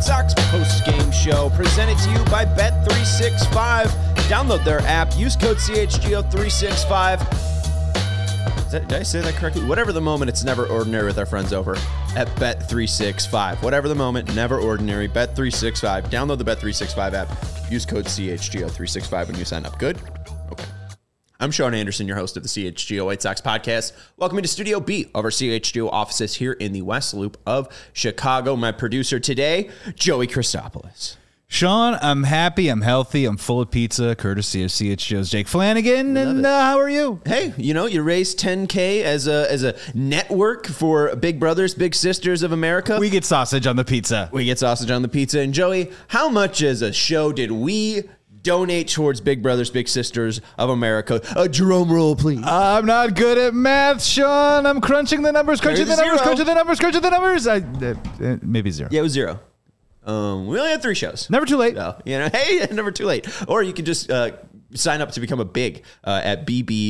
Sox post-game show presented to you by Bet365. Download their app. Use code CHGO365. Did I say that correctly? Whatever the moment, it's never ordinary with our friends over at Bet365. Whatever the moment, never ordinary. Bet365. Download the Bet365 app. Use code CHGO365 when you sign up. Good? Okay. I'm Sean Anderson, your host of the CHGO White Sox podcast. Welcome to Studio B of our CHGO offices here in the West Loop of Chicago. My producer today, Joey Christopoulos. Sean, I'm happy, I'm healthy, I'm full of pizza, courtesy of CHGO's Jake Flanagan. And how are you? Hey, you raised $10K as a network for Big Brothers, Big Sisters of America. We get sausage on the pizza. And Joey, how much as a show did we donate towards Big Brothers, Big Sisters of America? A drum roll, please. I'm not good at math, Sean. I'm crunching the numbers. Maybe zero. Yeah, it was zero. We only had 3 shows. Never too late. So, hey, never too late. Or you can just sign up to become a big at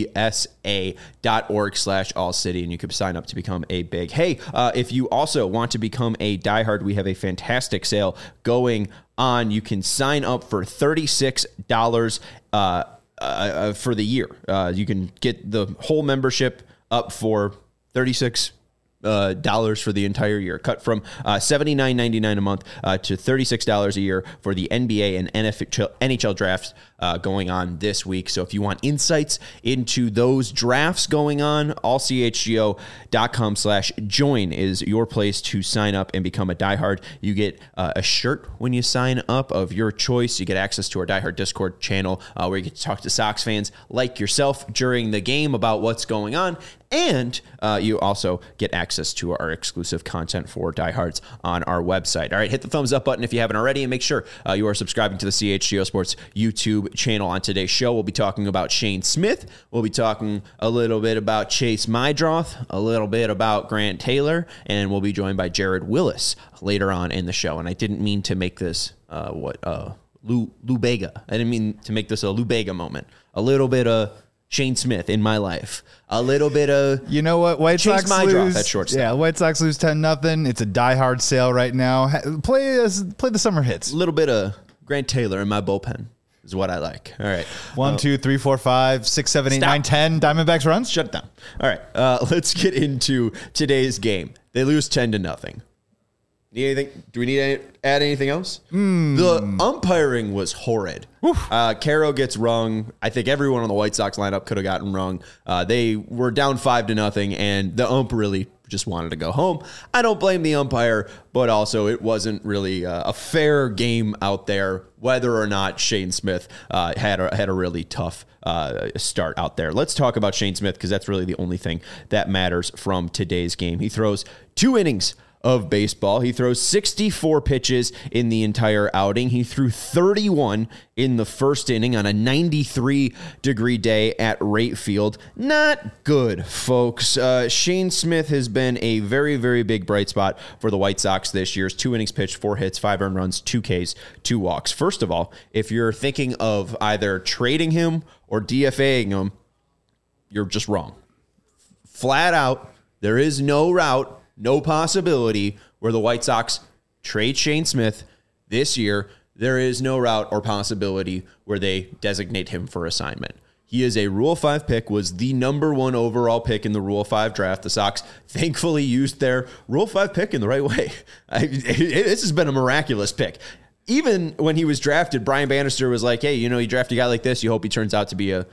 bbsa.org/allcity, and you could sign up to become a big. Hey, if you also want to become a diehard, we have a fantastic sale going on. You can sign up for $36 for the year. You can get the whole membership up for $36 for the entire year, cut from $79.99 a month to $36 a year for the NBA and NHL drafts going on this week. So if you want insights into those drafts going on, allchgo.com/join is your place to sign up and become a diehard. You get a shirt when you sign up of your choice. You get access to our diehard Discord channel where you get to talk to Sox fans like yourself during the game about what's going on. And you also get access to our exclusive content for diehards on our website. All right, hit the thumbs up button if you haven't already, and make sure you are subscribing to the CHGO Sports YouTube channel. On today's show, we'll be talking about Shane Smith. We'll be talking a little bit about Chase Meidroth, a little bit about Grant Taylor, and we'll be joined by Jared Willis later on in the show. And I didn't mean to make this Lou Bega. I didn't mean to make this a Lou Bega moment. A little bit of Shane Smith in my life. A little bit of White Sox lose. At shortstop. Yeah, White Sox lose 10-0. It's a diehard sale right now. Play the summer hits. A little bit of Grant Taylor in my bullpen is what I like. All right. 1, 2, 3, 4, 5, 6, 7, 8, 9, 10 Diamondbacks runs. Shut it down. All right. Let's get into today's game. They lose 10-0. Need anything? Do we need to add anything else? The umpiring was horrid. Caro gets rung. I think everyone on the White Sox lineup could have gotten rung. They were down 5-0, and the ump really just wanted to go home. I don't blame the umpire, but also it wasn't really a fair game out there, whether or not Shane Smith had a really tough start out there. Let's talk about Shane Smith because that's really the only thing that matters from today's game. He throws 2 innings of baseball. He throws 64 pitches in the entire outing. He threw 31 in the first inning on a 93-degree day at Rate Field. Not good, folks. Shane Smith has been a very, very big bright spot for the White Sox this year. 2 innings pitched, 4 hits, 5 earned runs, 2 Ks, 2 walks. First of all, if you're thinking of either trading him or DFAing him, you're just wrong. Flat out, there is no route, no possibility where the White Sox trade Shane Smith this year. There is no route or possibility where they designate him for assignment. He is a Rule 5 pick, was the number 1 overall pick in the Rule 5 draft. The Sox thankfully used their Rule 5 pick in the right way. This has been a miraculous pick. Even when he was drafted, Brian Bannister was like, hey, you draft a guy like this, you hope he turns out to be a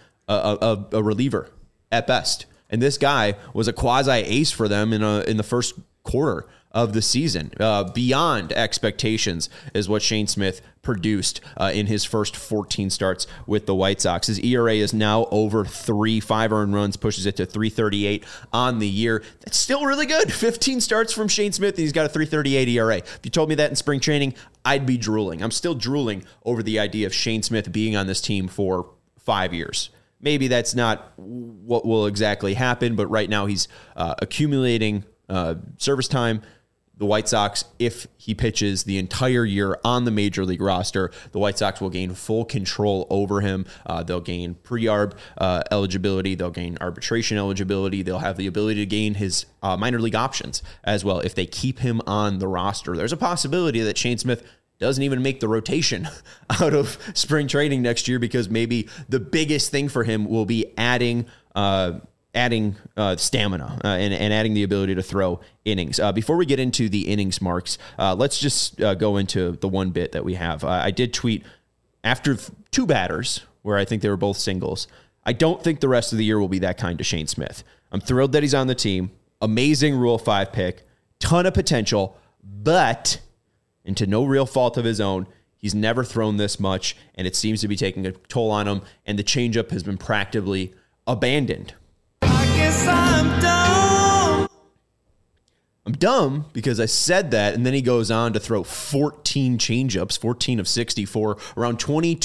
reliever at best. And this guy was a quasi-ace for them in the first quarter of the season. Beyond expectations is what Shane Smith produced in his first 14 starts with the White Sox. His ERA is now over 3, 5 earned runs, pushes it to 3.38 on the year. That's still really good. 15 starts from Shane Smith, and he's got a 3.38 ERA. If you told me that in spring training, I'd be drooling. I'm still drooling over the idea of Shane Smith being on this team for 5 years. Maybe that's not what will exactly happen, but right now he's accumulating service time. the White Sox, if he pitches the entire year on the major league roster, the White Sox will gain full control over him. They'll gain pre-arb eligibility. They'll gain arbitration eligibility. They'll have the ability to gain his minor league options as well if they keep him on the roster. There's a possibility that Shane Smith doesn't even make the rotation out of spring training next year because maybe the biggest thing for him will be adding stamina and adding the ability to throw innings. Before we get into the innings marks, let's just go into the one bit that we have. I did tweet after two batters where I think they were both singles. I don't think the rest of the year will be that kind to Shane Smith. I'm thrilled that he's on the team. Amazing Rule 5 pick. Ton of potential, but and to no real fault of his own, he's never thrown this much, and it seems to be taking a toll on him, and the changeup has been practically abandoned. I guess I'm dumb. I'm dumb because I said that, and then he goes on to throw 14 changeups, 14 of 64, around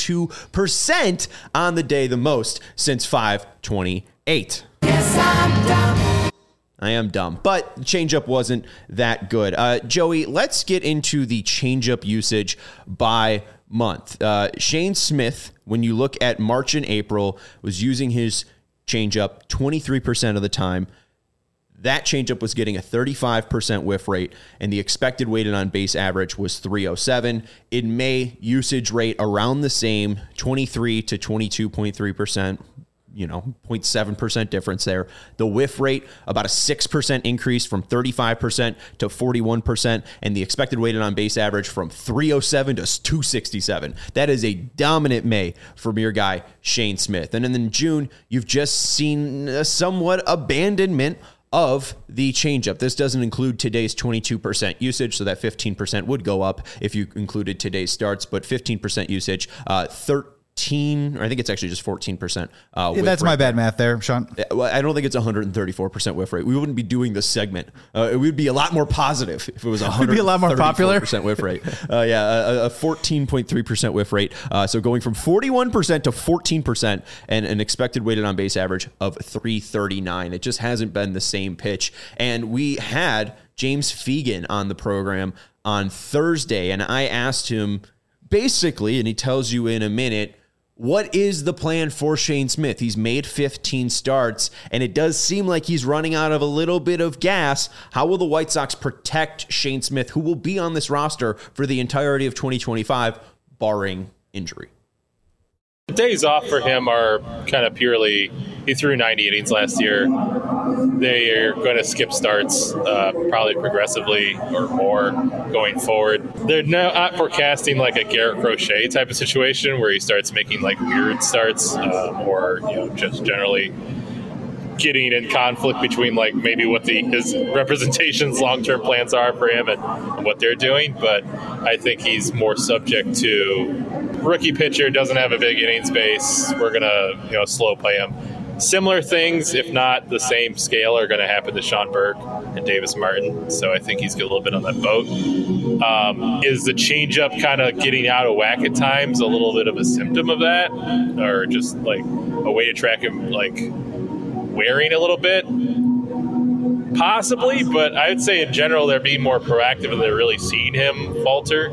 22% on the day, the most since 5/28. Yes, I'm dumb. I am dumb, but the changeup wasn't that good. Joey, let's get into the changeup usage by month. Shane Smith, when you look at March and April, was using his changeup 23% of the time. That changeup was getting a 35% whiff rate, and the expected weighted on base average was 307. In May, usage rate around the same, 23 to 22.3%. 0.7% difference there. The whiff rate, about a 6% increase from 35% to 41%, and the expected weighted on base average from 307 to 267. That is a dominant May from your guy, Shane Smith. And then in June, you've just seen a somewhat abandonment of the changeup. This doesn't include today's 22% usage, so that 15% would go up if you included today's starts, but 15% usage, 13, or I think it's actually just 14%. That's my bad math there, Sean. Well, I don't think it's 134% whiff rate. We wouldn't be doing this segment. It would be a lot more positive if it was 134% be a lot more popular whiff rate. A 14.3% whiff rate. So going from 41% to 14% and an expected weighted on base average of 339. It just hasn't been the same pitch. And we had James Fegan on the program on Thursday, and I asked him basically, and he tells you in a minute, what is the plan for Shane Smith? He's made 15 starts, and it does seem like he's running out of a little bit of gas. How will the White Sox protect Shane Smith, who will be on this roster for the entirety of 2025, barring injury? The days off for him are kind of purely, he threw 90 innings last year. They are going to skip starts probably progressively or more going forward. They're not forecasting like a Garrett Crochet type of situation where he starts making like weird starts or just generally getting in conflict between like maybe what his representation's long-term plans are for him and what they're doing. But I think he's more subject to rookie pitcher, doesn't have a big innings base. We're going to slow play him. Similar things, if not the same scale, are going to happen to Sean Burke and Davis Martin. So I think he's a little bit on that boat. Is the changeup kind of getting out of whack at times a little bit of a symptom of that? Or just like a way to track him like wearing a little bit? Possibly, but I would say in general they're being more proactive and they're really seeing him falter.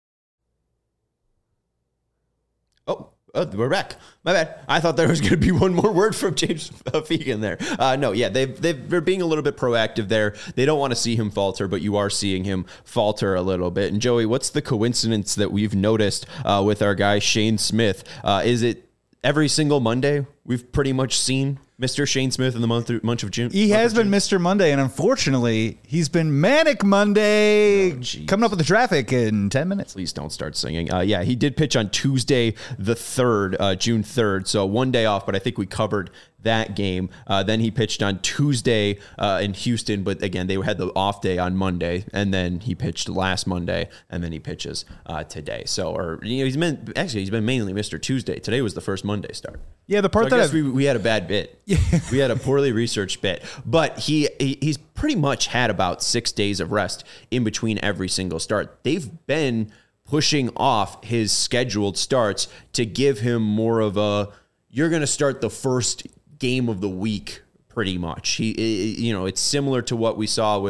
Oh, we're back. My bad. I thought there was going to be one more word from James Fegan there. No, yeah, they're being a little bit proactive there. They don't want to see him falter, but you are seeing him falter a little bit. And Joey, what's the coincidence that we've noticed with our guy Shane Smith? Is it every single Monday we've pretty much seen Mr. Shane Smith in the month of June? He has been Mr. Monday, and unfortunately, he's been Manic Monday, coming up with the traffic in 10 minutes. Please don't start singing. Yeah, he did pitch on Tuesday the 3rd, June 3rd, so one day off, but I think we covered that game. Then he pitched on Tuesday in Houston, but again, they had the off day on Monday, and then he pitched last Monday, and then he pitches today. So, he's been mainly Mr. Tuesday. Today was the first Monday start. Yeah, the part that we had a bad bit. We had a poorly researched bit, but he's pretty much had about 6 days of rest in between every single start. They've been pushing off his scheduled starts to give him more of a, you're going to start the first game of the week pretty much. It's similar to what we saw with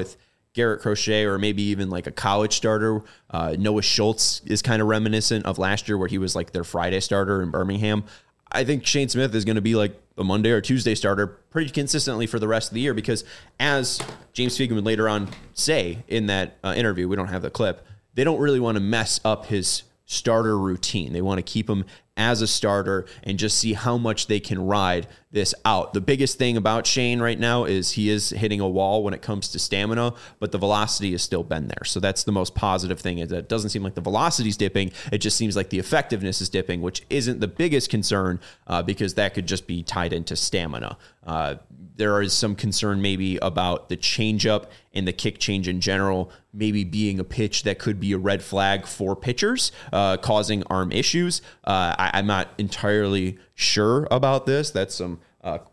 Garrett Crochet or maybe even like a college starter. Noah Schultz is kind of reminiscent of last year where he was like their Friday starter in Birmingham. I think Shane Smith is going to be like a Monday or Tuesday starter pretty consistently for the rest of the year because as James Fegan would later on say in that interview, we don't have the clip, they don't really want to mess up his starter routine. They want to keep him as a starter and just see how much they can ride this out. The biggest thing about Shane right now is he is hitting a wall when it comes to stamina, but the velocity has still been there. So that's the most positive thing, is that it doesn't seem like the velocity's dipping. It just seems like the effectiveness is dipping, which isn't the biggest concern because that could just be tied into stamina. There is some concern maybe about the changeup and the kick change in general, maybe being a pitch that could be a red flag for pitchers, causing arm issues. I'm not entirely sure about this. That's some,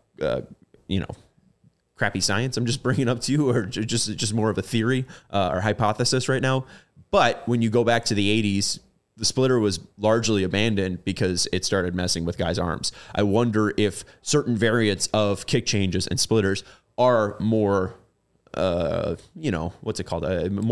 crappy science I'm just bringing up to you, or just more of a theory or hypothesis right now. But when you go back to the 80s, the splitter was largely abandoned because it started messing with guys' arms. I wonder if certain variants of kick changes and splitters are more, what's it called?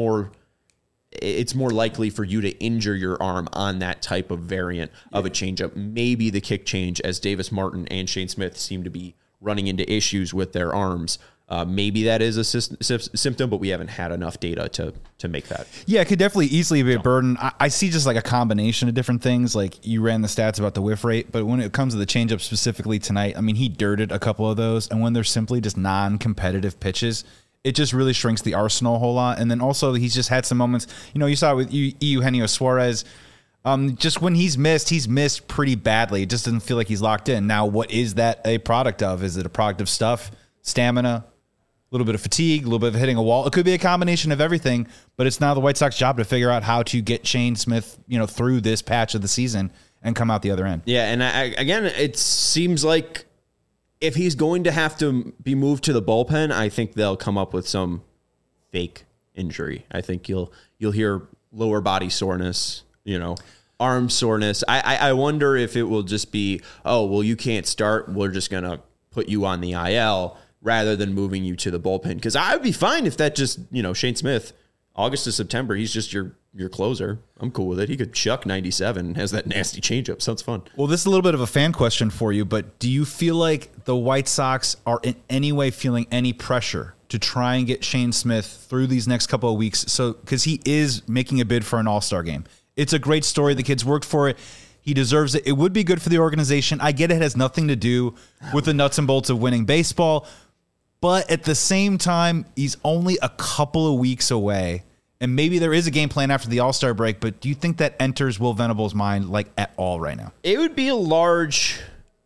It's more likely for you to injure your arm on that type of variant of a changeup. Maybe the kick change, as Davis Martin and Shane Smith seem to be running into issues with their arms. Maybe that is a symptom, but we haven't had enough data to make that. Yeah, it could definitely easily be a burden. I see just like a combination of different things. Like you ran the stats about the whiff rate, but when it comes to the changeup specifically tonight, I mean, he dirted a couple of those. And when they're simply just non-competitive pitches, it just really shrinks the arsenal a whole lot. And then also he's just had some moments, you saw it with Eugenio Suarez. Just when he's missed pretty badly. It just doesn't feel like he's locked in. Now, what is that a product of? Is it a product of stuff, stamina, a little bit of fatigue, a little bit of hitting a wall? It could be a combination of everything, but it's now the White Sox job to figure out how to get Shane Smith, through this patch of the season and come out the other end. Yeah, and again, it seems like if he's going to have to be moved to the bullpen, I think they'll come up with some fake injury. I think you'll hear lower body soreness, arm soreness. I wonder if it will just be, you can't start. We're just going to put you on the IL rather than moving you to the bullpen. Because I would be fine if that just, Shane Smith, August to September, he's just your closer. I'm cool with it. He could chuck 97, has that nasty changeup. Sounds fun. Well, this is a little bit of a fan question for you, but do you feel like the White Sox are in any way feeling any pressure to try and get Shane Smith through these next couple of weeks? So, because he is making a bid for an All-Star game. It's a great story. The kid's worked for it. He deserves it. It would be good for the organization. I get it has nothing to do with the nuts and bolts of winning baseball, but at the same time, he's only a couple of weeks away. And maybe there is a game plan after the All-Star break, but do you think that enters Will Venable's mind at all right now? It would be a large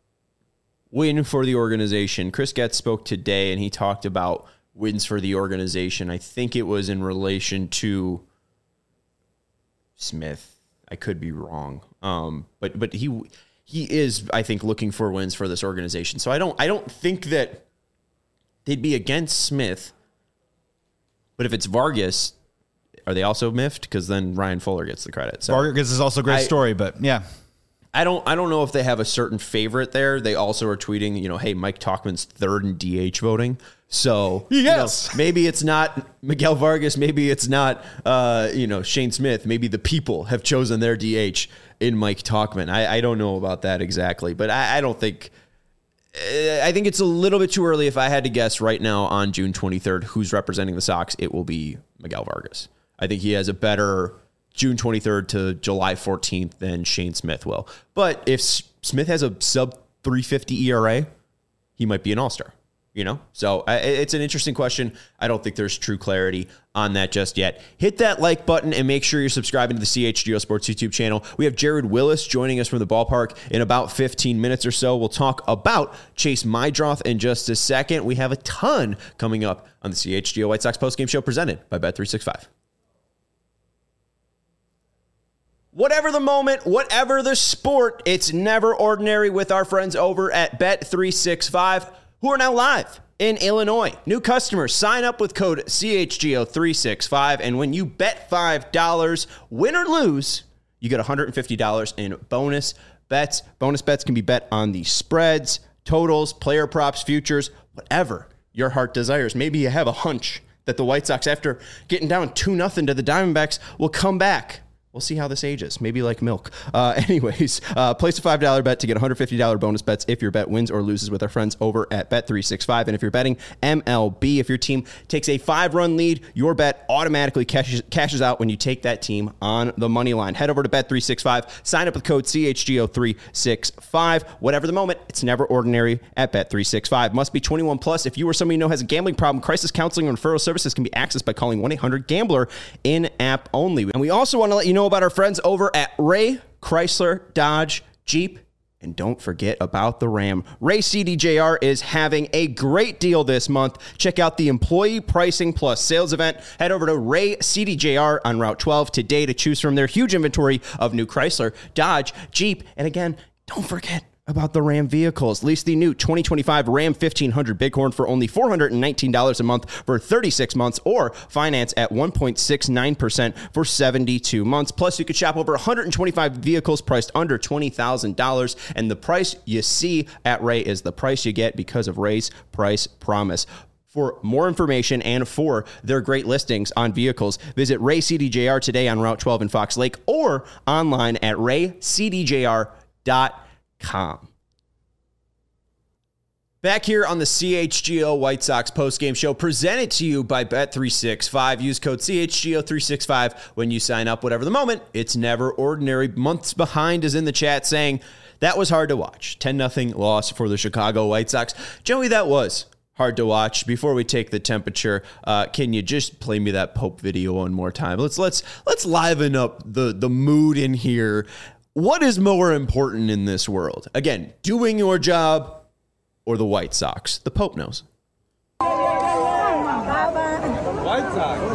win for the organization. Chris Getz spoke today, and he talked about wins for the organization. I think it was in relation to Smith. I could be wrong. But he is, I think, looking for wins for this organization. So I don't think that they'd be against Smith. But if it's Vargas, are they also miffed? Because then Ryan Fuller gets the credit. So Vargas is also a great story, but yeah. I don't know if they have a certain favorite there. They also are tweeting, hey, Mike Tauchman's third in DH voting. So yes, maybe it's not Miguel Vargas. Maybe it's not, Shane Smith. Maybe the people have chosen their DH in Mike Tauchman. I don't know about that exactly, but I don't think. I think it's a little bit too early. If I had to guess right now on June 23rd, who's representing the Sox, it will be Miguel Vargas. I think he has a better June 23rd to July 14th than Shane Smith will. But if Smith has a sub 350 ERA, he might be an all-star, So it's an interesting question. I don't think there's true clarity on that just yet. Hit that like button and make sure you're subscribing to the CHGO Sports YouTube channel. We have Jared Willis joining us from the ballpark in about 15 minutes or so. We'll talk about Chase Meidroth in just a second. We have a ton coming up on the CHGO White Sox postgame show presented by Bet365. Whatever the moment, whatever the sport, it's never ordinary with our friends over at Bet365, who are now live in Illinois. New customers, sign up with code CHGO365, and when you bet $5, win or lose, you get $150 in bonus bets. Bonus bets can be bet on the spreads, totals, player props, futures, whatever your heart desires. Maybe you have a hunch that the White Sox, after getting down 2-0 to the Diamondbacks, will come back. We'll see how this ages. Maybe like milk. Anyways, place a $5 bet to get $150 bonus bets if your bet wins or loses with our friends over at Bet365. And if you're betting MLB, if your team takes a 5-run lead, your bet automatically cashes out when you take that team on the money line. Head over to Bet365. Sign up with code CHGO365. Whatever the moment, it's never ordinary at Bet365. Must be 21 plus. If you or somebody you know has a gambling problem, crisis counseling and referral services can be accessed by calling 1-800-GAMBLER in-app only. And we also want to let you know about our friends over at Ray Chrysler Dodge Jeep. And don't forget about the Ram. Ray CDJR is having a great deal this month. Check out the Employee Pricing Plus Sales event. Head over to Ray CDJR on Route 12 today to choose from their huge inventory of new Chrysler, Dodge, Jeep. And again, don't forget about the Ram vehicles. Lease the new 2025 Ram 1500 Bighorn for only $419 a month for 36 months, or finance at 1.69% for 72 months. Plus, you could shop over 125 vehicles priced under $20,000. And the price you see at Ray is the price you get because of Ray's Price Promise. For more information and for their great listings on vehicles, visit Ray CDJR today on Route 12 in Fox Lake or online at raycdjr.com. Back here on the CHGO White Sox postgame show, presented to you by Bet365. Use code CHGO365 when you sign up. Whatever the moment, it's never ordinary. Months Behind is in the chat saying that was hard to watch. 10-0 loss for the Chicago White Sox. Joey, that was hard to watch. Before we take the temperature, can you just play me that Pope video one more time? Let's liven up the mood in here. What is more important in this world? Again, doing your job or the White Sox? The Pope knows. White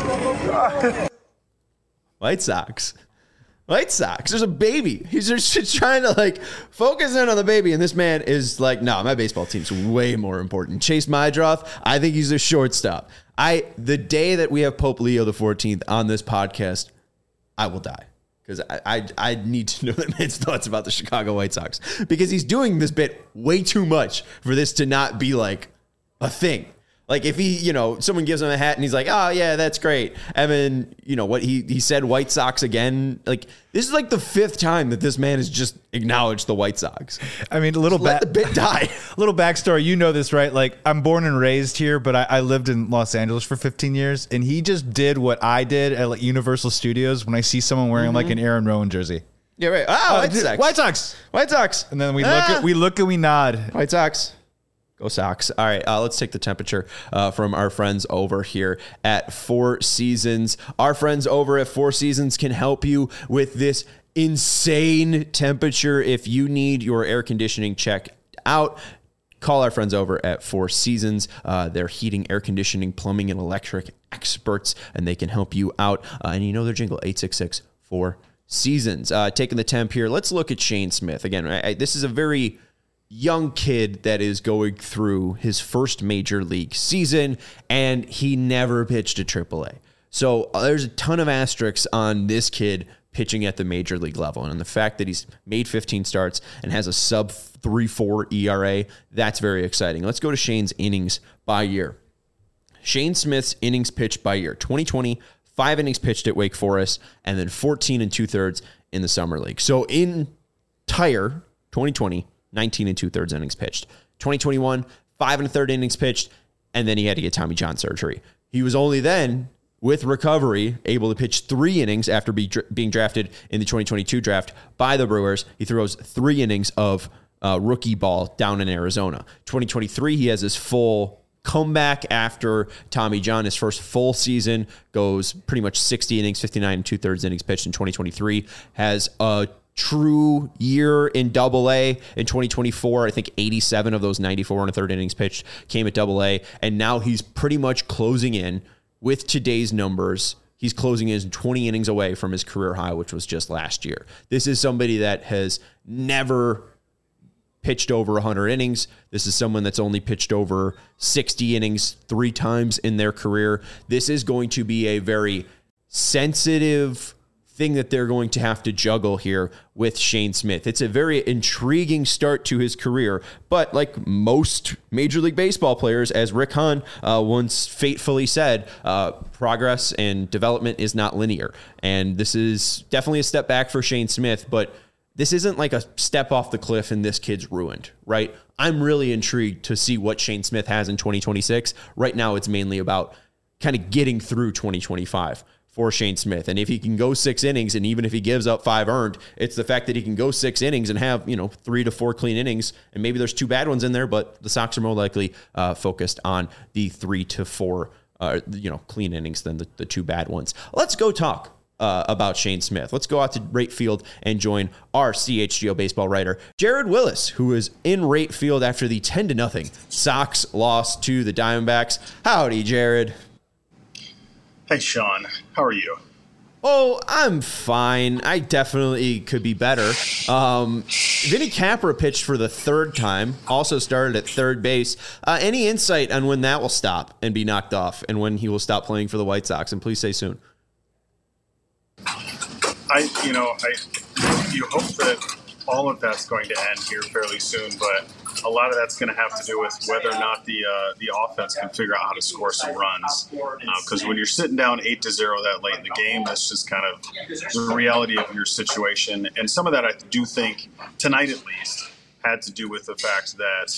Sox. White Sox. White Sox. There's a baby. He's just trying to focus in on the baby. And this man is like, no, my baseball team's way more important. Chase Mydroth, I think he's a shortstop. The day that we have Pope Leo the 14th on this podcast, I will die. Because I need to know that man's thoughts about the Chicago White Sox. Because he's doing this bit way too much for this to not be like a thing. Like if he, someone gives him a hat and he's like, oh yeah, that's great. And then, what he said White Sox again. Like this is like the 5th time that this man has just acknowledged the White Sox. I mean, let the bit die. Little backstory. You know this, right? Like I'm born and raised here, but I lived in Los Angeles for 15 years. And he just did what I did at Universal Studios when I see someone wearing like an Aaron Rowan jersey. Yeah, right. Oh, White Sox. White Sox. White Sox. And then we look and we nod. White Sox. Go Sox. All right, let's take the temperature from our friends over here at Four Seasons. Our friends over at Four Seasons can help you with this insane temperature. If you need your air conditioning checked out, call our friends over at Four Seasons. They're heating, air conditioning, plumbing, and electric experts, and they can help you out. And you know their jingle, 866-4-SEASONS. Taking the temp here, let's look at Shane Smith. Again, this is a very young kid that is going through his first major league season, and he never pitched at AAA. So there's a ton of asterisks on this kid pitching at the major league level. And the fact that he's made 15 starts and has a sub 3.4 ERA, that's very exciting. Let's go to Shane's innings by year. Shane Smith's innings pitched by year. 2020, 5 innings pitched at Wake Forest, and then 14 2/3 in the summer league. So entire 2020, 19 2/3 innings pitched. 2021, 5 1/3 innings pitched, and then he had to get Tommy John surgery. He was only then, with recovery, able to pitch 3 innings after being drafted in the 2022 draft by the Brewers. He throws 3 innings of rookie ball down in Arizona. 2023, he has his full comeback after Tommy John. His first full season goes pretty much 60 innings, 59 2/3 innings pitched in 2023. Has a true year in Double-A in 2024. I think 87 of those 94 1/3 innings pitched came at Double-A, and now he's pretty much closing in with today's numbers. He's closing in 20 innings away from his career high, which was just last year. This is somebody that has never pitched over 100 innings. This is someone that's only pitched over 60 innings 3 times in their career. This is going to be a very sensitive, thing that they're going to have to juggle here with Shane Smith. It's a very intriguing start to his career, but like most Major League Baseball players, as Rick Hahn once fatefully said, progress and development is not linear. And this is definitely a step back for Shane Smith, but this isn't like a step off the cliff and this kid's ruined, right? I'm really intrigued to see what Shane Smith has in 2026. Right now, it's mainly about kind of getting through 2025 for Shane Smith. And if he can go 6 innings, and even if he gives up 5 earned, it's the fact that he can go 6 innings and have, 3 to 4 clean innings. And maybe there's 2 bad ones in there, but the Sox are more likely focused on the 3 to 4, clean innings than the 2 bad ones. Let's go talk about Shane Smith. Let's go out to Rate Field and join our CHGO baseball writer, Jared Willis, who is in Rate Field after the 10-0 Sox loss to the Diamondbacks. Howdy, Jared. Hey, Sean. How are you? Oh, I'm fine. I definitely could be better. Vinny Capra pitched for the 3rd time, also started at third base. Any insight on when that will stop and be knocked off and when he will stop playing for the White Sox? And please say soon. You hope that all of that's going to end here fairly soon, but a lot of that's going to have to do with whether or not the offense can figure out how to score some runs. Because when you're sitting down 8-0 that late in the game, that's just kind of the reality of your situation. And some of that, I do think, tonight at least, had to do with the fact that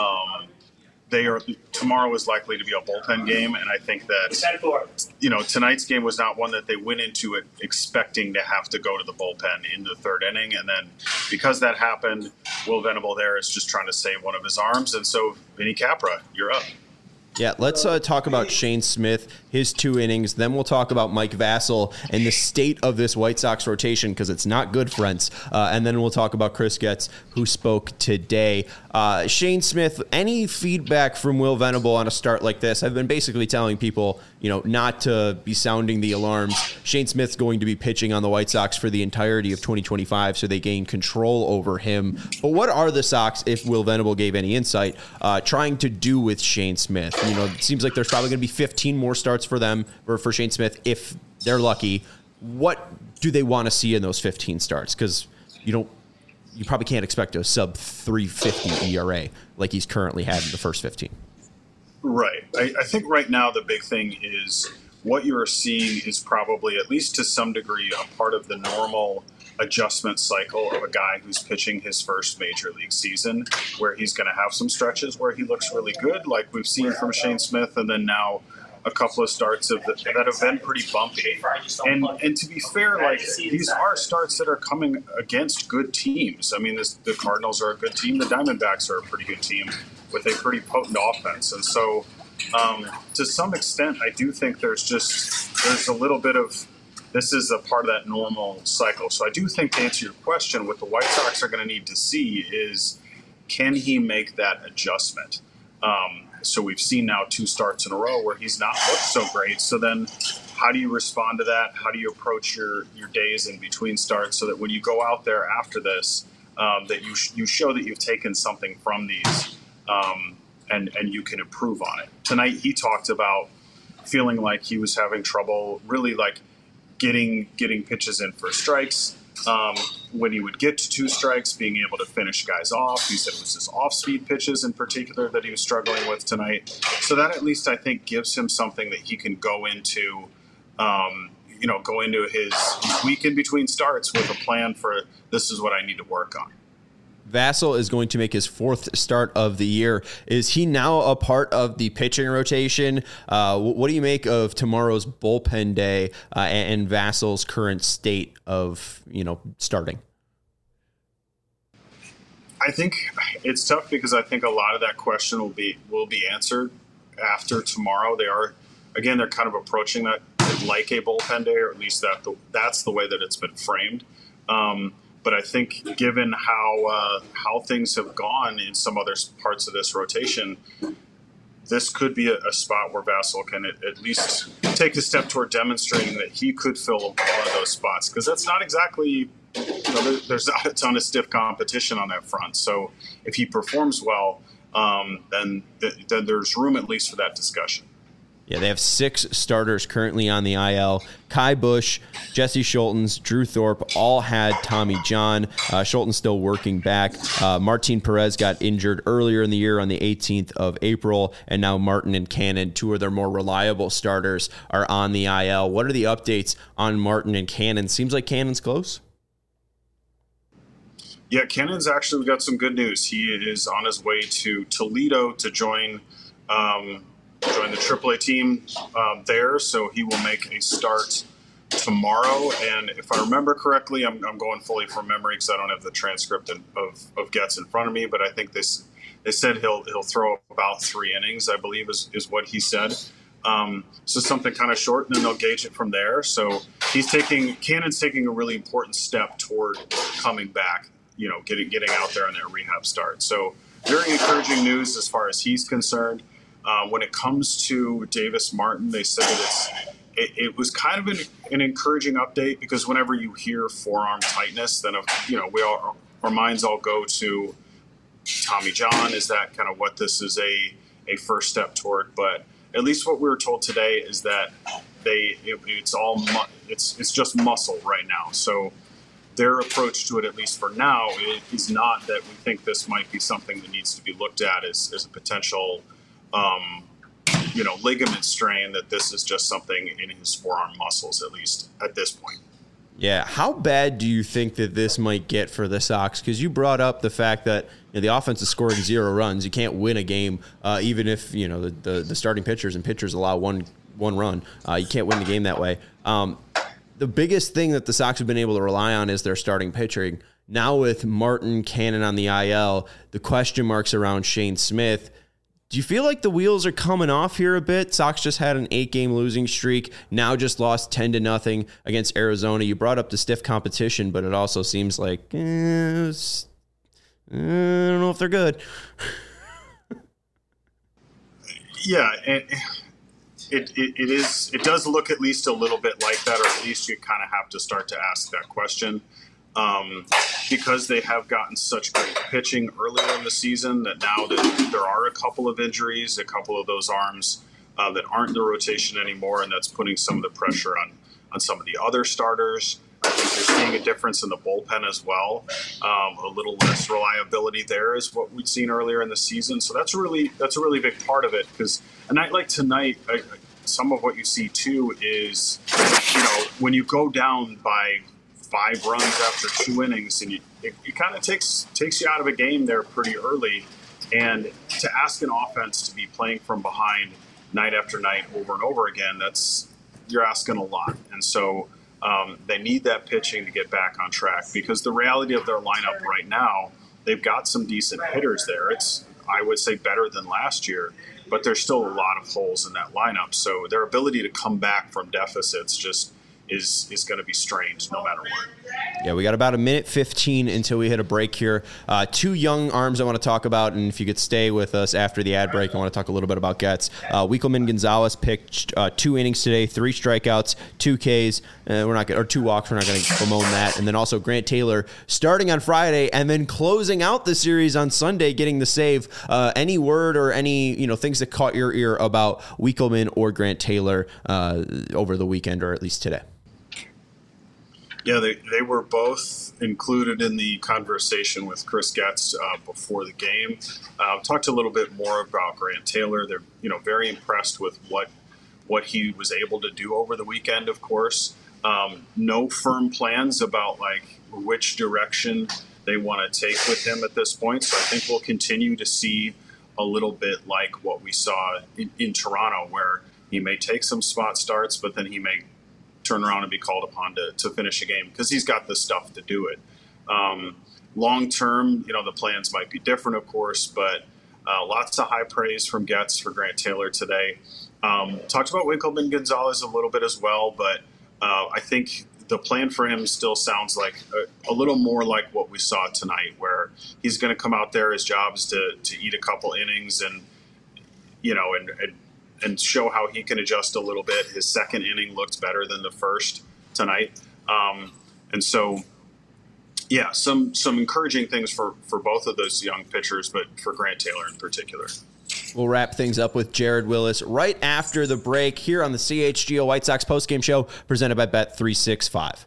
tomorrow is likely to be a bullpen game, and I think that tonight's game was not one that they went into it expecting to have to go to the bullpen in the 3rd inning, and then because that happened, Will Venable there is just trying to save one of his arms, and so Vinny Capra, you're up. Yeah, let's talk about Shane Smith, his 2 innings. Then we'll talk about Mike Vasil and the state of this White Sox rotation because it's not good, friends. And then we'll talk about Chris Getz, who spoke today. Shane Smith, any feedback from Will Venable on a start like this? I've been basically telling people, not to be sounding the alarms. Shane Smith's going to be pitching on the White Sox for the entirety of 2025, so they gain control over him. But what are the Sox, if Will Venable gave any insight, trying to do with Shane Smith? It seems like there's probably going to be 15 more starts for them, or for Shane Smith, if they're lucky. What do they want to see in those 15 starts? Because you probably can't expect a sub 350 ERA like he's currently had in the first 15. Right. I think right now the big thing is what you're seeing is probably, at least to some degree, a part of the normal adjustment cycle of a guy who's pitching his first major league season, where he's going to have some stretches where he looks really good, like we've seen from Shane Smith, and then now a couple of starts that have been pretty bumpy. And to be fair, like, these are starts that are coming against good teams. I mean, the Cardinals are a good team. The Diamondbacks are a pretty good team with a pretty potent offense. And so to some extent, I do think there's a little bit of, this is a part of that normal cycle. So I do think, to answer your question, what the White Sox are going to need to see is, can he make that adjustment? So we've seen now 2 starts in a row where he's not looked so great. So then how do you respond to that? How do you approach your days in between starts so that when you go out there after this, that you show that you've taken something from these and you can improve on it? Tonight he talked about feeling like he was having trouble really like getting pitches in for strikes. When he would get to 2 strikes, being able to finish guys off. He said it was his off-speed pitches in particular that he was struggling with tonight. So that at least I think gives him something that he can go into, his week in between starts with a plan for, this is what I need to work on. Vasil is going to make his 4th start of the year. Is he now a part of the pitching rotation? What do you make of tomorrow's bullpen day and Vasil's current state of, starting? I think it's tough because I think a lot of that question will be answered after tomorrow. They're kind of approaching that like a bullpen day, or at least that's the way that it's been framed. But I think given how things have gone in some other parts of this rotation, this could be a spot where Vasil can at least take a step toward demonstrating that he could fill one of those spots. Because that's not exactly, there's not a ton of stiff competition on that front. So if he performs well, then there's room at least for that discussion. Yeah, they have 6 starters currently on the IL. Kai Bush, Jesse Schultens, Drew Thorpe all had Tommy John. Schultens still working back. Martin Perez got injured earlier in the year on the 18th of April, and now Martin and Cannon, 2 of their more reliable starters, are on the IL. What are the updates on Martin and Cannon? Seems like Cannon's close. Yeah, Cannon's actually got some good news. He is on his way to Toledo to join the AAA team there, so he will make a start tomorrow. And if I remember correctly, I'm going fully from memory because I don't have the transcript of Getz in front of me, but I think they said he'll throw about 3 innings, I believe is what he said. So something kind of short, and then they'll gauge it from there. So Cannon's taking a really important step toward coming back, getting out there on their rehab start. So very encouraging news as far as he's concerned. When it comes to Davis Martin, they said that it was kind of an encouraging update, because whenever you hear forearm tightness, then our minds all go to Tommy John. Is that kind of what this is a first step toward? But at least what we were told today is that it's just muscle right now. So their approach to it, at least for now, is not that we think this might be something that needs to be looked at as a potential ligament strain, that this is just something in his forearm muscles, at least at this point. Yeah. How bad do you think that this might get for the Sox? Because you brought up the fact that the offense is scoring 0 runs. You can't win a game, even if the starting pitchers allow one run. You can't win the game that way. The biggest thing that the Sox have been able to rely on is their starting pitching. Now with Martin, Cannon on the IL, the question marks around Shane Smith. Do you feel like the wheels are coming off here a bit? Sox just had an 8-game losing streak, now just lost 10-0 against Arizona. You brought up the stiff competition, but it also seems like, I don't know if they're good. Yeah, it does look at least a little bit like that, or at least you kind of have to start to ask that question. Because they have gotten such great pitching earlier in the season, that now that there are a couple of injuries, a couple of those arms that aren't in the rotation anymore, and that's putting some of the pressure on some of the other starters. I think you're seeing a difference in the bullpen as well. A little less reliability there is what we'd seen earlier in the season. So that's a really big part of it, because a night like tonight, some of what you see too is, when you go down by 5 runs after 2 innings, and it kind of takes you out of a game there pretty early. And to ask an offense to be playing from behind night after night over and over again, you're asking a lot. And so they need that pitching to get back on track, because the reality of their lineup right now, they've got some decent hitters there. It's, I would say, better than last year, but there's still a lot of holes in that lineup. So their ability to come back from deficits just is going to be strained no matter what. Yeah, we got about 1:15 until we hit a break here. 2 young arms I want to talk about, and if you could stay with us after the ad break, I want to talk a little bit about Getz. Wikelman Gonzalez pitched 2 innings today, 3 strikeouts, 2 Ks. Or 2 walks. We're not going to bemoan that. And then also Grant Taylor starting on Friday and then closing out the series on Sunday, getting the save. Any word or any things that caught your ear about Wikelman or Grant Taylor over the weekend, or at least today? Yeah, they were both included in the conversation with Chris Getz before the game. Talked a little bit more about Grant Taylor. They're very impressed with what he was able to do over the weekend. Of course, no firm plans about which direction they want to take with him at this point. So I think we'll continue to see a little bit like what we saw in Toronto, where he may take some spot starts, but then he may turn around and be called upon to finish a game, because he's got the stuff to do it. Long term, the plans might be different, of course, but lots of high praise from Getz for Grant Taylor today. Talked about Wikelman Gonzalez a little bit as well, but I think the plan for him still sounds like a little more like what we saw tonight, where he's going to come out there. His job is to eat a couple innings and show how he can adjust a little bit. His second inning looked better than the first tonight. And so, yeah, some encouraging things for both of those young pitchers, but for Grant Taylor in particular. We'll wrap things up with Jared Willis right after the break here on the CHGO White Sox postgame show presented by Bet365.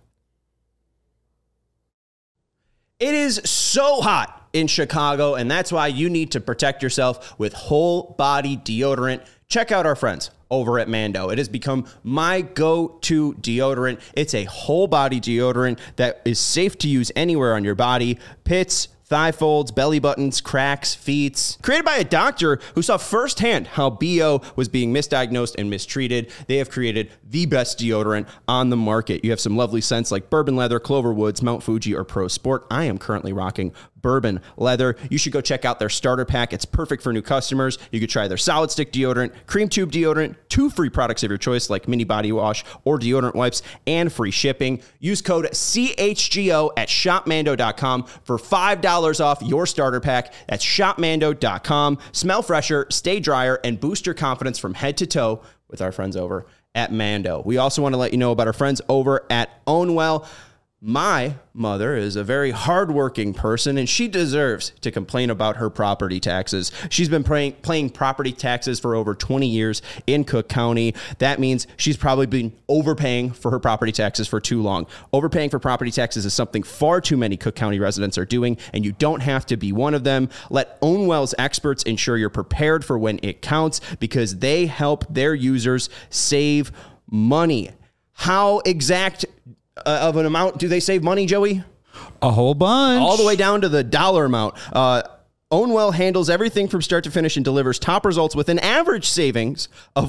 It is so hot in Chicago, and that's why you need to protect yourself with whole body deodorant. Check out our friends over at Mando. It has become my go-to deodorant. It's a whole body deodorant that is safe to use anywhere on your body. Pits, thigh folds, belly buttons, cracks, feet. Created by a doctor who saw firsthand how BO was being misdiagnosed and mistreated. They have created the best deodorant on the market. You have some lovely scents like Bourbon Leather, Clover Woods, Mount Fuji, or Pro Sport. I am currently rocking Bourbon Leather. You should go check out their starter pack. It's perfect for new customers. You could try their solid stick deodorant, cream tube deodorant, 2 free products of your choice like mini body wash or deodorant wipes, and free shipping. Use code CHGO at shopmando.com for $5 off your starter pack. That's shopmando.com. Smell fresher, stay drier, and boost your confidence from head to toe with our friends over at Mando. We also want to let you know about our friends over at Ownwell. My mother is a very hardworking person, and she deserves to complain about her property taxes. She's been paying property taxes for over 20 years in Cook County. That means she's probably been overpaying for her property taxes for too long. Overpaying for property taxes is something far too many Cook County residents are doing, and you don't have to be one of them. Let Ownwell's experts ensure you're prepared for when it counts, because they help their users save money. How exact of an amount do they save money, Joey? A whole bunch. All the way down to the dollar amount. Ownwell handles everything from start to finish and delivers top results with an average savings of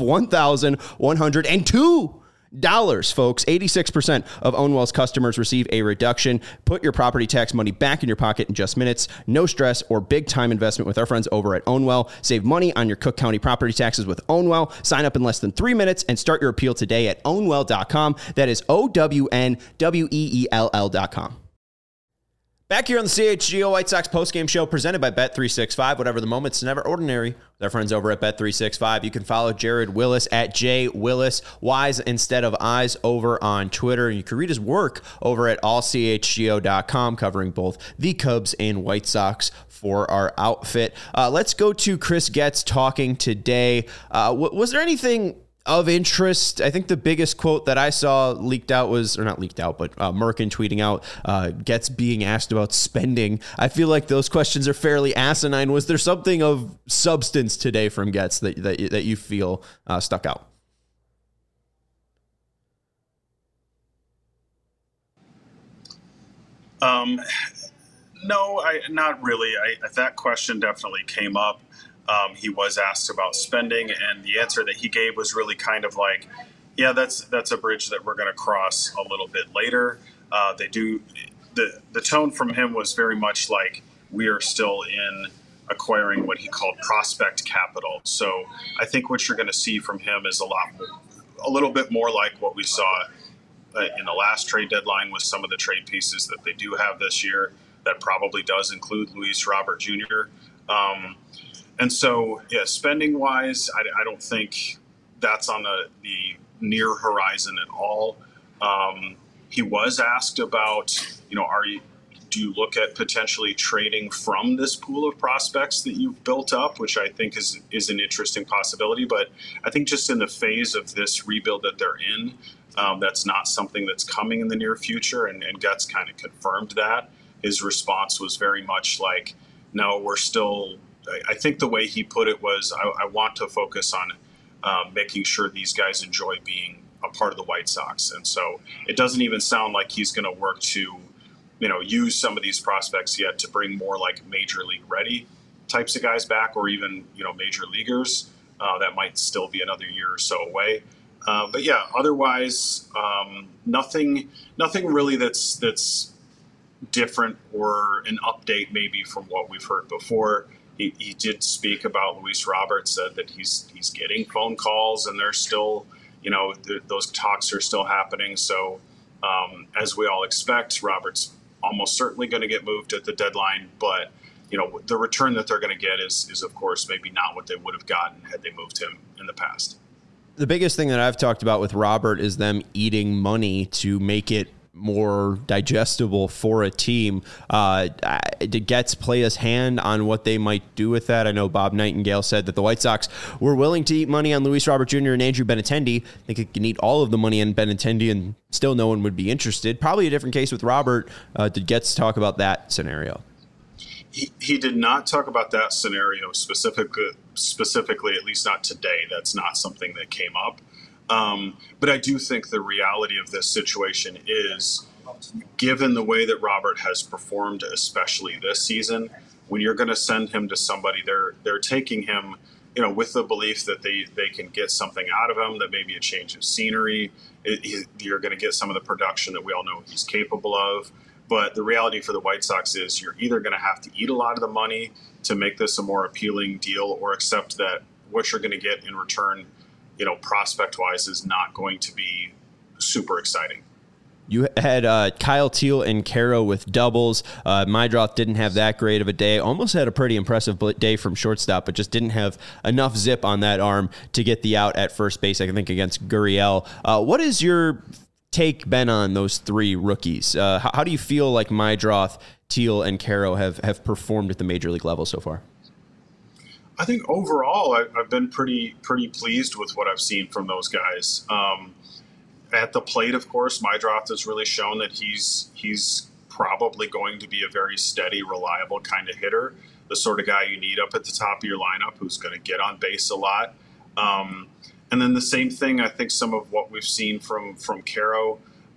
$1,102, folks. 86% of Ownwell's customers receive a reduction. Put your property tax money back in your pocket in just minutes. No stress or big time investment with our friends over at Ownwell. Save money on your Cook County property taxes with Ownwell. Sign up in less than 3 minutes and start your appeal today at ownwell.com. That is OWNWEELL.com. Back here on the CHGO White Sox postgame show presented by Bet365. Whatever the moment's never ordinary with our friends over at Bet365. You can follow Jared Willis at JWillis, Y's instead of I's, over on Twitter. And you can read his work over at allchgo.com, covering both the Cubs and White Sox for our outfit. Let's go to Chris Getz talking today. Was there anything of interest? I think the biggest quote that I saw leaked out was, or not leaked out, but Merkin tweeting out Getz being asked about spending. I feel like those questions are fairly asinine. Was there something of substance today from Getz that you feel stuck out? No, not really. That question definitely came up. He was asked about spending, and the answer that he gave was really kind of like, yeah, that's a bridge that we're going to cross a little bit later. The tone from him was very much like we are still in acquiring what he called prospect capital. So I think what you're going to see from him is a little bit more like what we saw in the last trade deadline with some of the trade pieces that they do have this year. That probably does include Luis Robert Jr. And so, yeah, spending-wise, I don't think that's on the near horizon at all. He was asked about, do you look at potentially trading from this pool of prospects that you've built up, which I think is an interesting possibility. But I think just in the phase of this rebuild that they're in, that's not something that's coming in the near future. And Getz kind of confirmed that. His response was very much like, no, we're still – I think the way he put it was, I want to focus on making sure these guys enjoy being a part of the White Sox. And so it doesn't even sound like he's going to work to, use some of these prospects yet to bring more like major league ready types of guys back, or even, major leaguers. That might still be another year or so away. But yeah, otherwise, nothing really that's different or an update maybe from what we've heard before. He did speak about Luis Robert, said that he's getting phone calls, and they're still, those talks are still happening. So as we all expect, Robert's almost certainly going to get moved at the deadline. But, the return that they're going to get is, of course, maybe not what they would have gotten had they moved him in the past. The biggest thing that I've talked about with Robert is them eating money to make it more digestible for a team. Did Getz play his hand on what they might do with that? I know Bob Nightingale said that the White Sox were willing to eat money on Luis Robert Jr. and Andrew Benintendi. They could eat all of the money on Benintendi and still no one would be interested. Probably a different case with Robert. Did Getz talk about that scenario? He did not talk about that scenario specifically, at least not today. That's not something that came up. But I do think the reality of this situation is, given the way that Robert has performed, especially this season, when you're going to send him to somebody, they're taking him, with the belief that they can get something out of him, that maybe a change of scenery, you're going to get some of the production that we all know he's capable of. But the reality for the White Sox is you're either going to have to eat a lot of the money to make this a more appealing deal, or accept that what you're going to get in return, prospect-wise, is not going to be super exciting. You had Kyle Teel and Caro with doubles. Meidroth didn't have that great of a day. Almost had a pretty impressive day from shortstop, but just didn't have enough zip on that arm to get the out at first base, I think, against Gurriel. What is your take, Ben, on those three rookies? How do you feel like Meidroth, Teel, and Caro have performed at the major league level so far? I think overall I've been pretty pleased with what I've seen from those guys. At the plate, of course, Meidroth has really shown that he's probably going to be a very steady, reliable kind of hitter, the sort of guy you need up at the top of your lineup who's going to get on base a lot. And then the same thing, I think some of what we've seen from Caro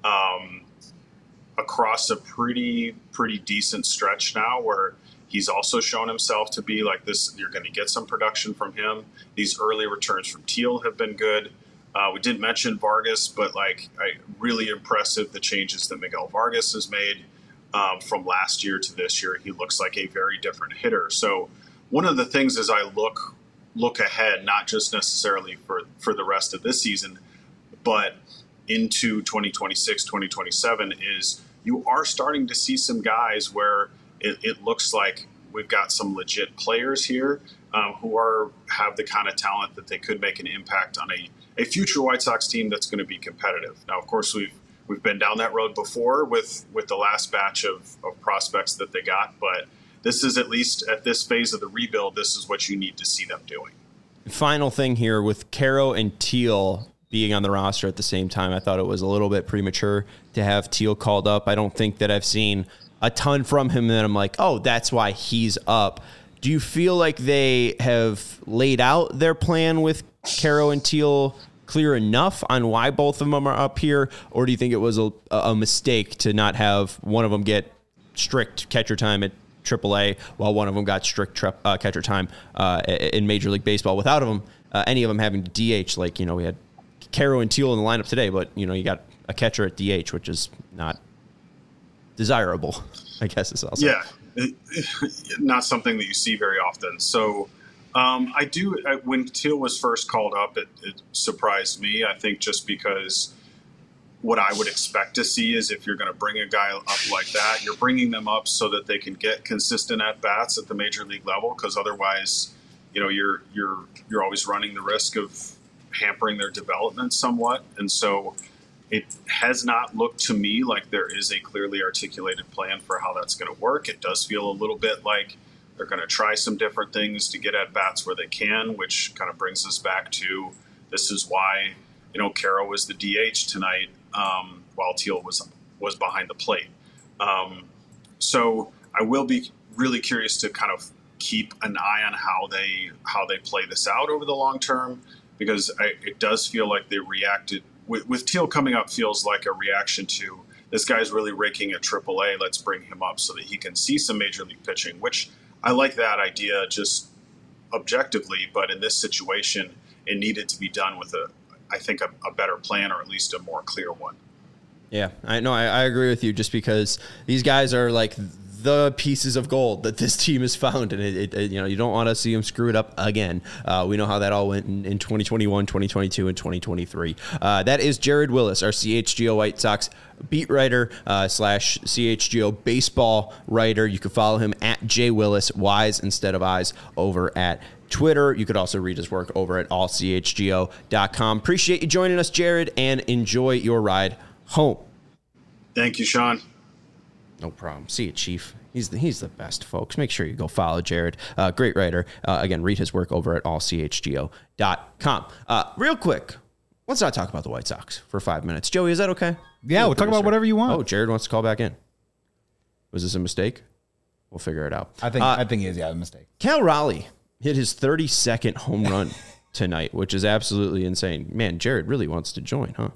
across a pretty decent stretch now, where he's also shown himself to be like this. You're going to get some production from him. These early returns from Teel have been good. We didn't mention Vargas, but really impressive the changes that Miguel Vargas has made from last year to this year. He looks like a very different hitter. So one of the things as I look ahead, not just necessarily for the rest of this season, but into 2026, 2027, is you are starting to see some guys where it looks like we've got some legit players here who have the kind of talent that they could make an impact on a future White Sox team that's going to be competitive. Now, of course, we've been down that road before with the last batch of prospects that they got, but this is, at least at this phase of the rebuild, this is what you need to see them doing. Final thing here with Caro and Teel being on the roster at the same time, I thought it was a little bit premature to have Teel called up. I don't think that I've seen a ton from him that I'm like, oh, that's why he's up. Do you feel like they have laid out their plan with Caro and Teel clear enough on why both of them are up here? Or do you think it was a mistake to not have one of them get strict catcher time at AAA while one of them got strict catcher time in Major League Baseball without any of them having to DH? We had Caro and Teel in the lineup today, but you got a catcher at DH, which is not desirable, I guess is also. Yeah, not something that you see very often. So when Teel was first called up, it surprised me. I think just because what I would expect to see is, if you're going to bring a guy up like that, you're bringing them up so that they can get consistent at bats at the major league level, because otherwise, you're always running the risk of hampering their development somewhat. And so it has not looked to me like there is a clearly articulated plan for how that's going to work. It does feel a little bit like they're going to try some different things to get at bats where they can, which kind of brings us back to, this is why, Caro was the DH tonight, while Teel was behind the plate. So I will be really curious to kind of keep an eye on how they play this out over the long term, because it does feel like they reacted with Teel coming up, feels like a reaction to, this guy's really raking at AAA. Let's bring him up so that he can see some major league pitching, which I like that idea just objectively, but in this situation, it needed to be done with I think a better plan, or at least a more clear one. Yeah, I know. I agree with you, just because these guys are like the pieces of gold that this team has found, and you don't want to see them screw it up again. We know how that all went in 2021, 2022, and 2023. That is Jared Willis, our CHGO White Sox beat writer / CHGO baseball writer. You can follow him at JWillis, Y's instead of I's, over at Twitter. You could also read his work over at allchgo.com. Appreciate you joining us, Jared, and enjoy your ride home. Thank you, Sean. No problem. See you, Chief. He's the best, folks. Make sure you go follow Jared. Great writer. Again, read his work over at allchgo.com. Real quick, let's not talk about the White Sox for 5 minutes. Joey, is that okay? Yeah, we'll talk about whatever you want. Oh, Jared wants to call back in. Was this a mistake? We'll figure it out. I think it is, a mistake. Cal Raleigh hit his 32nd home run tonight, which is absolutely insane. Man, Jared really wants to join, huh?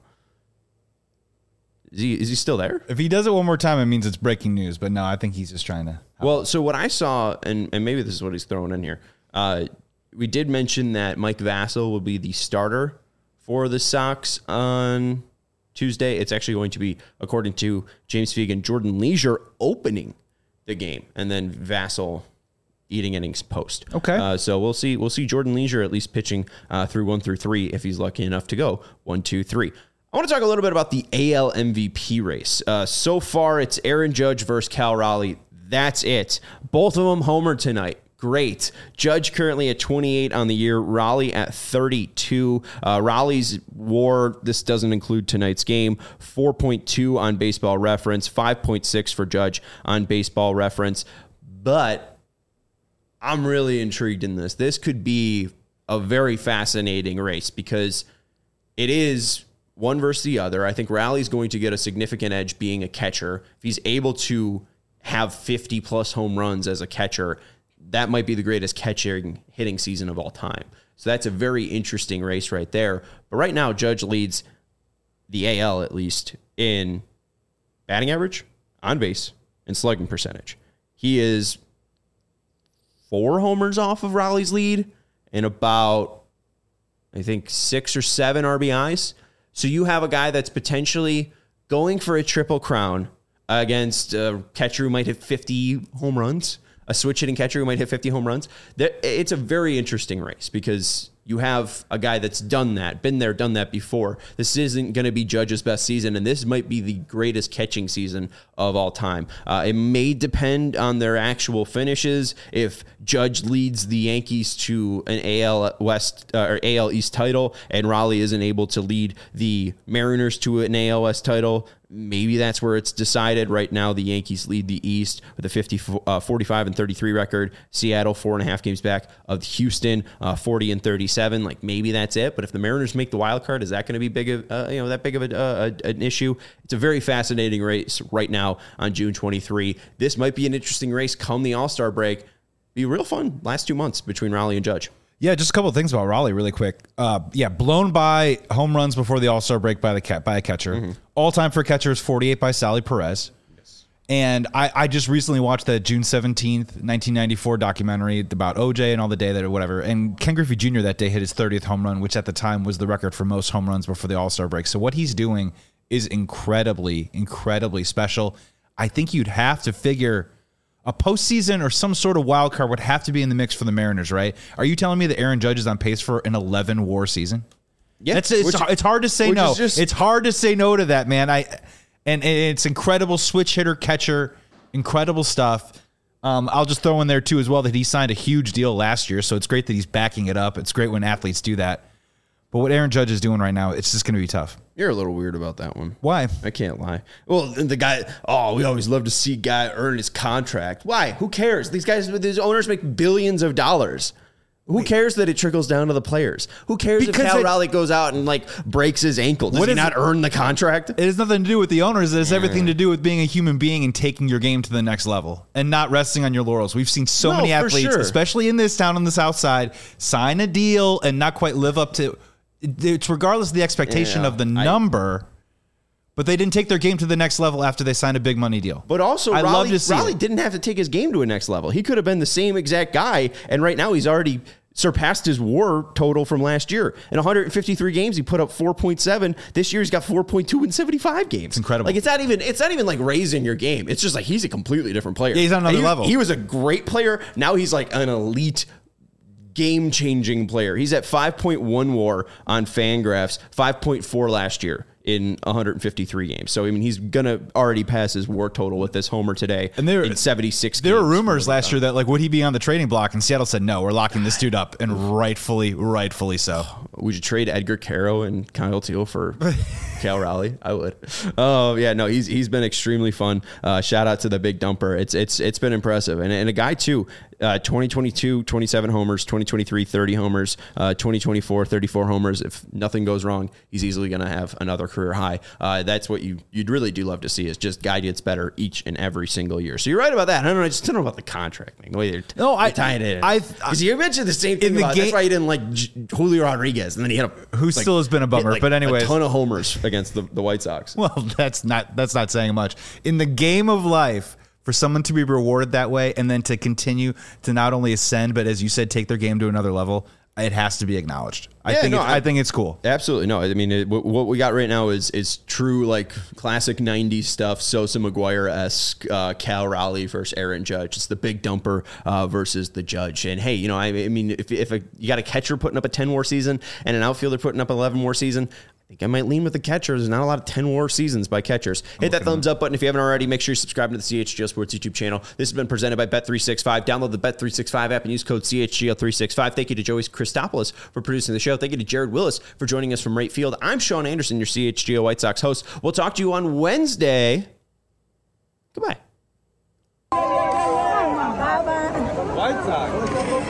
Is he still there? If he does it one more time, it means it's breaking news. But no, I think he's just trying to. Well, so what I saw, and maybe this is what he's throwing in here, we did mention that Mike Vasil will be the starter for the Sox on Tuesday. It's actually going to be, according to James Fegan, Jordan Leisure opening the game, and then Vasil eating innings post. Okay. So we'll see Jordan Leisure at least pitching through 1 through 3 if he's lucky enough to go 1, 2, 3. I want to talk a little bit about the AL MVP race. So far, it's Aaron Judge versus Cal Raleigh. That's it. Both of them homered tonight. Great. Judge currently at 28 on the year. Raleigh at 32. Raleigh's WAR, this doesn't include tonight's game, 4.2 on Baseball Reference, 5.6 for Judge on Baseball Reference. But I'm really intrigued in this. This could be a very fascinating race because it is one versus the other. I think Raleigh's going to get a significant edge being a catcher. If he's able to have 50-plus home runs as a catcher, that might be the greatest hitting season of all time. So that's a very interesting race right there. But right now, Judge leads the AL, at least, in batting average, on base, and slugging percentage. He is 4 homers off of Raleigh's lead and about, I think, 6 or 7 RBIs. So you have a guy that's potentially going for a triple crown against a catcher who might hit 50 home runs, a switch hitting catcher who might hit 50 home runs. It's a very interesting race because you have a guy that's done that, been there, done that before. This isn't going to be Judge's best season, and this might be the greatest catching season of all time. It may depend on their actual finishes. If Judge leads the Yankees to an AL West or AL East title, and Raleigh isn't able to lead the Mariners to an AL West title, maybe that's where it's decided. Right now, the Yankees lead the East with a 45 and 33 record. Seattle 4.5 games back of Houston, 40 and 37. Like maybe that's it. But if the Mariners make the wild card, is that going to be that big of an issue? It's a very fascinating race right now on June 23. This might be an interesting race come the All-Star break. Be real fun last 2 months between Raleigh and Judge. Yeah, just a couple of things about Raleigh really quick. Blown by home runs before the All-Star break by a catcher. Mm-hmm. All-time for catcher is 48 by Sally Perez. Yes. And I just recently watched that June 17th, 1994 documentary about OJ and all the day that or whatever. And Ken Griffey Jr. that day hit his 30th home run, which at the time was the record for most home runs before the All-Star break. So what he's doing is incredibly, incredibly special. I think you'd have to figure a postseason or some sort of wild card would have to be in the mix for the Mariners, right? Are you telling me that Aaron Judge is on pace for an 11 WAR season? Yeah, it's hard to say no. It's hard to say no to that, man. And it's incredible switch hitter, catcher, incredible stuff. I'll just throw in there too as well that he signed a huge deal last year, so it's great that he's backing it up. It's great when athletes do that. But what Aaron Judge is doing right now, it's just going to be tough. You're a little weird about that one. Why? I can't lie. Well, the guy, we always love to see a guy earn his contract. Why? Who cares? These owners make billions of dollars. Who cares that it trickles down to the players? Who cares if Cal Raleigh goes out and breaks his ankle? Does he not earn the contract? It has nothing to do with the owners. It has everything to do with being a human being and taking your game to the next level and not resting on your laurels. We've seen so many athletes, especially in this town on the South Side, sign a deal and not quite live up to. It's regardless of the expectation of the number, but they didn't take their game to the next level after they signed a big money deal. But also, Raleigh didn't have to take his game to a next level. He could have been the same exact guy, and right now he's already surpassed his WAR total from last year. In 153 games, he put up 4.7. This year, he's got 4.2 in 75 games. It's incredible. It's not even like raising your game. It's just he's a completely different player. Yeah, he's on another level. He was a great player. Now he's like an elite game-changing player. He's at 5.1 WAR on Fangraphs, 5.4 last year in 153 games. So, he's going to already pass his WAR total with this homer today in 76 games. There were rumors last year that, would he be on the trading block? And Seattle said, no, we're locking this dude up, and rightfully so. Would you trade Edgar Caro and Kyle Teal for Cal Raleigh. I would. Oh yeah, no, he's been extremely fun. Shout out to the big dumper. It's been impressive, and a guy too. 2022, 27 homers, 2023, 30 homers, 2024, 34 homers. If nothing goes wrong, he's easily going to have another career high. That's what you'd really do love to see, is just guy gets better each and every single year. So you're right about that. I don't know. I just don't know about the contract thing. The way they're tying it in. Because you mentioned the same thing about that's why you didn't like Julio Rodriguez, and then he had who still has been a bummer. But anyway, a ton of homers against the White Sox. Well, that's not saying much. In the game of life, for someone to be rewarded that way and then to continue to not only ascend, but as you said, take their game to another level, it has to be acknowledged. I think it's cool. Absolutely. No, I mean, what we got right now is true, like classic 90s stuff. Sosa McGuire-esque, Cal Raleigh versus Aaron Judge. It's the big dumper versus the Judge. And hey, I mean, if you got a catcher putting up a 10 WAR season and an outfielder putting up 11 WAR season, I think I might lean with the catcher. There's not a lot of 10 WAR seasons by catchers. Hit that thumbs up button if you haven't already. Make sure you subscribe to the CHGO Sports YouTube channel. This has been presented by Bet365. Download the Bet365 app and use code CHGO365. Thank you to Joey Christopoulos for producing the show. Thank you to Jared Willis for joining us from right field. I'm Sean Anderson, your CHGO White Sox host. We'll talk to you on Wednesday. Goodbye. White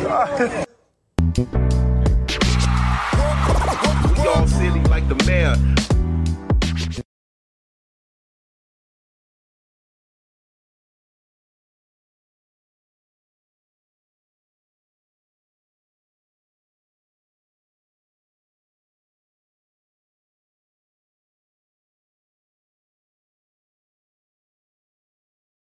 Sox. We all silly like the mayor.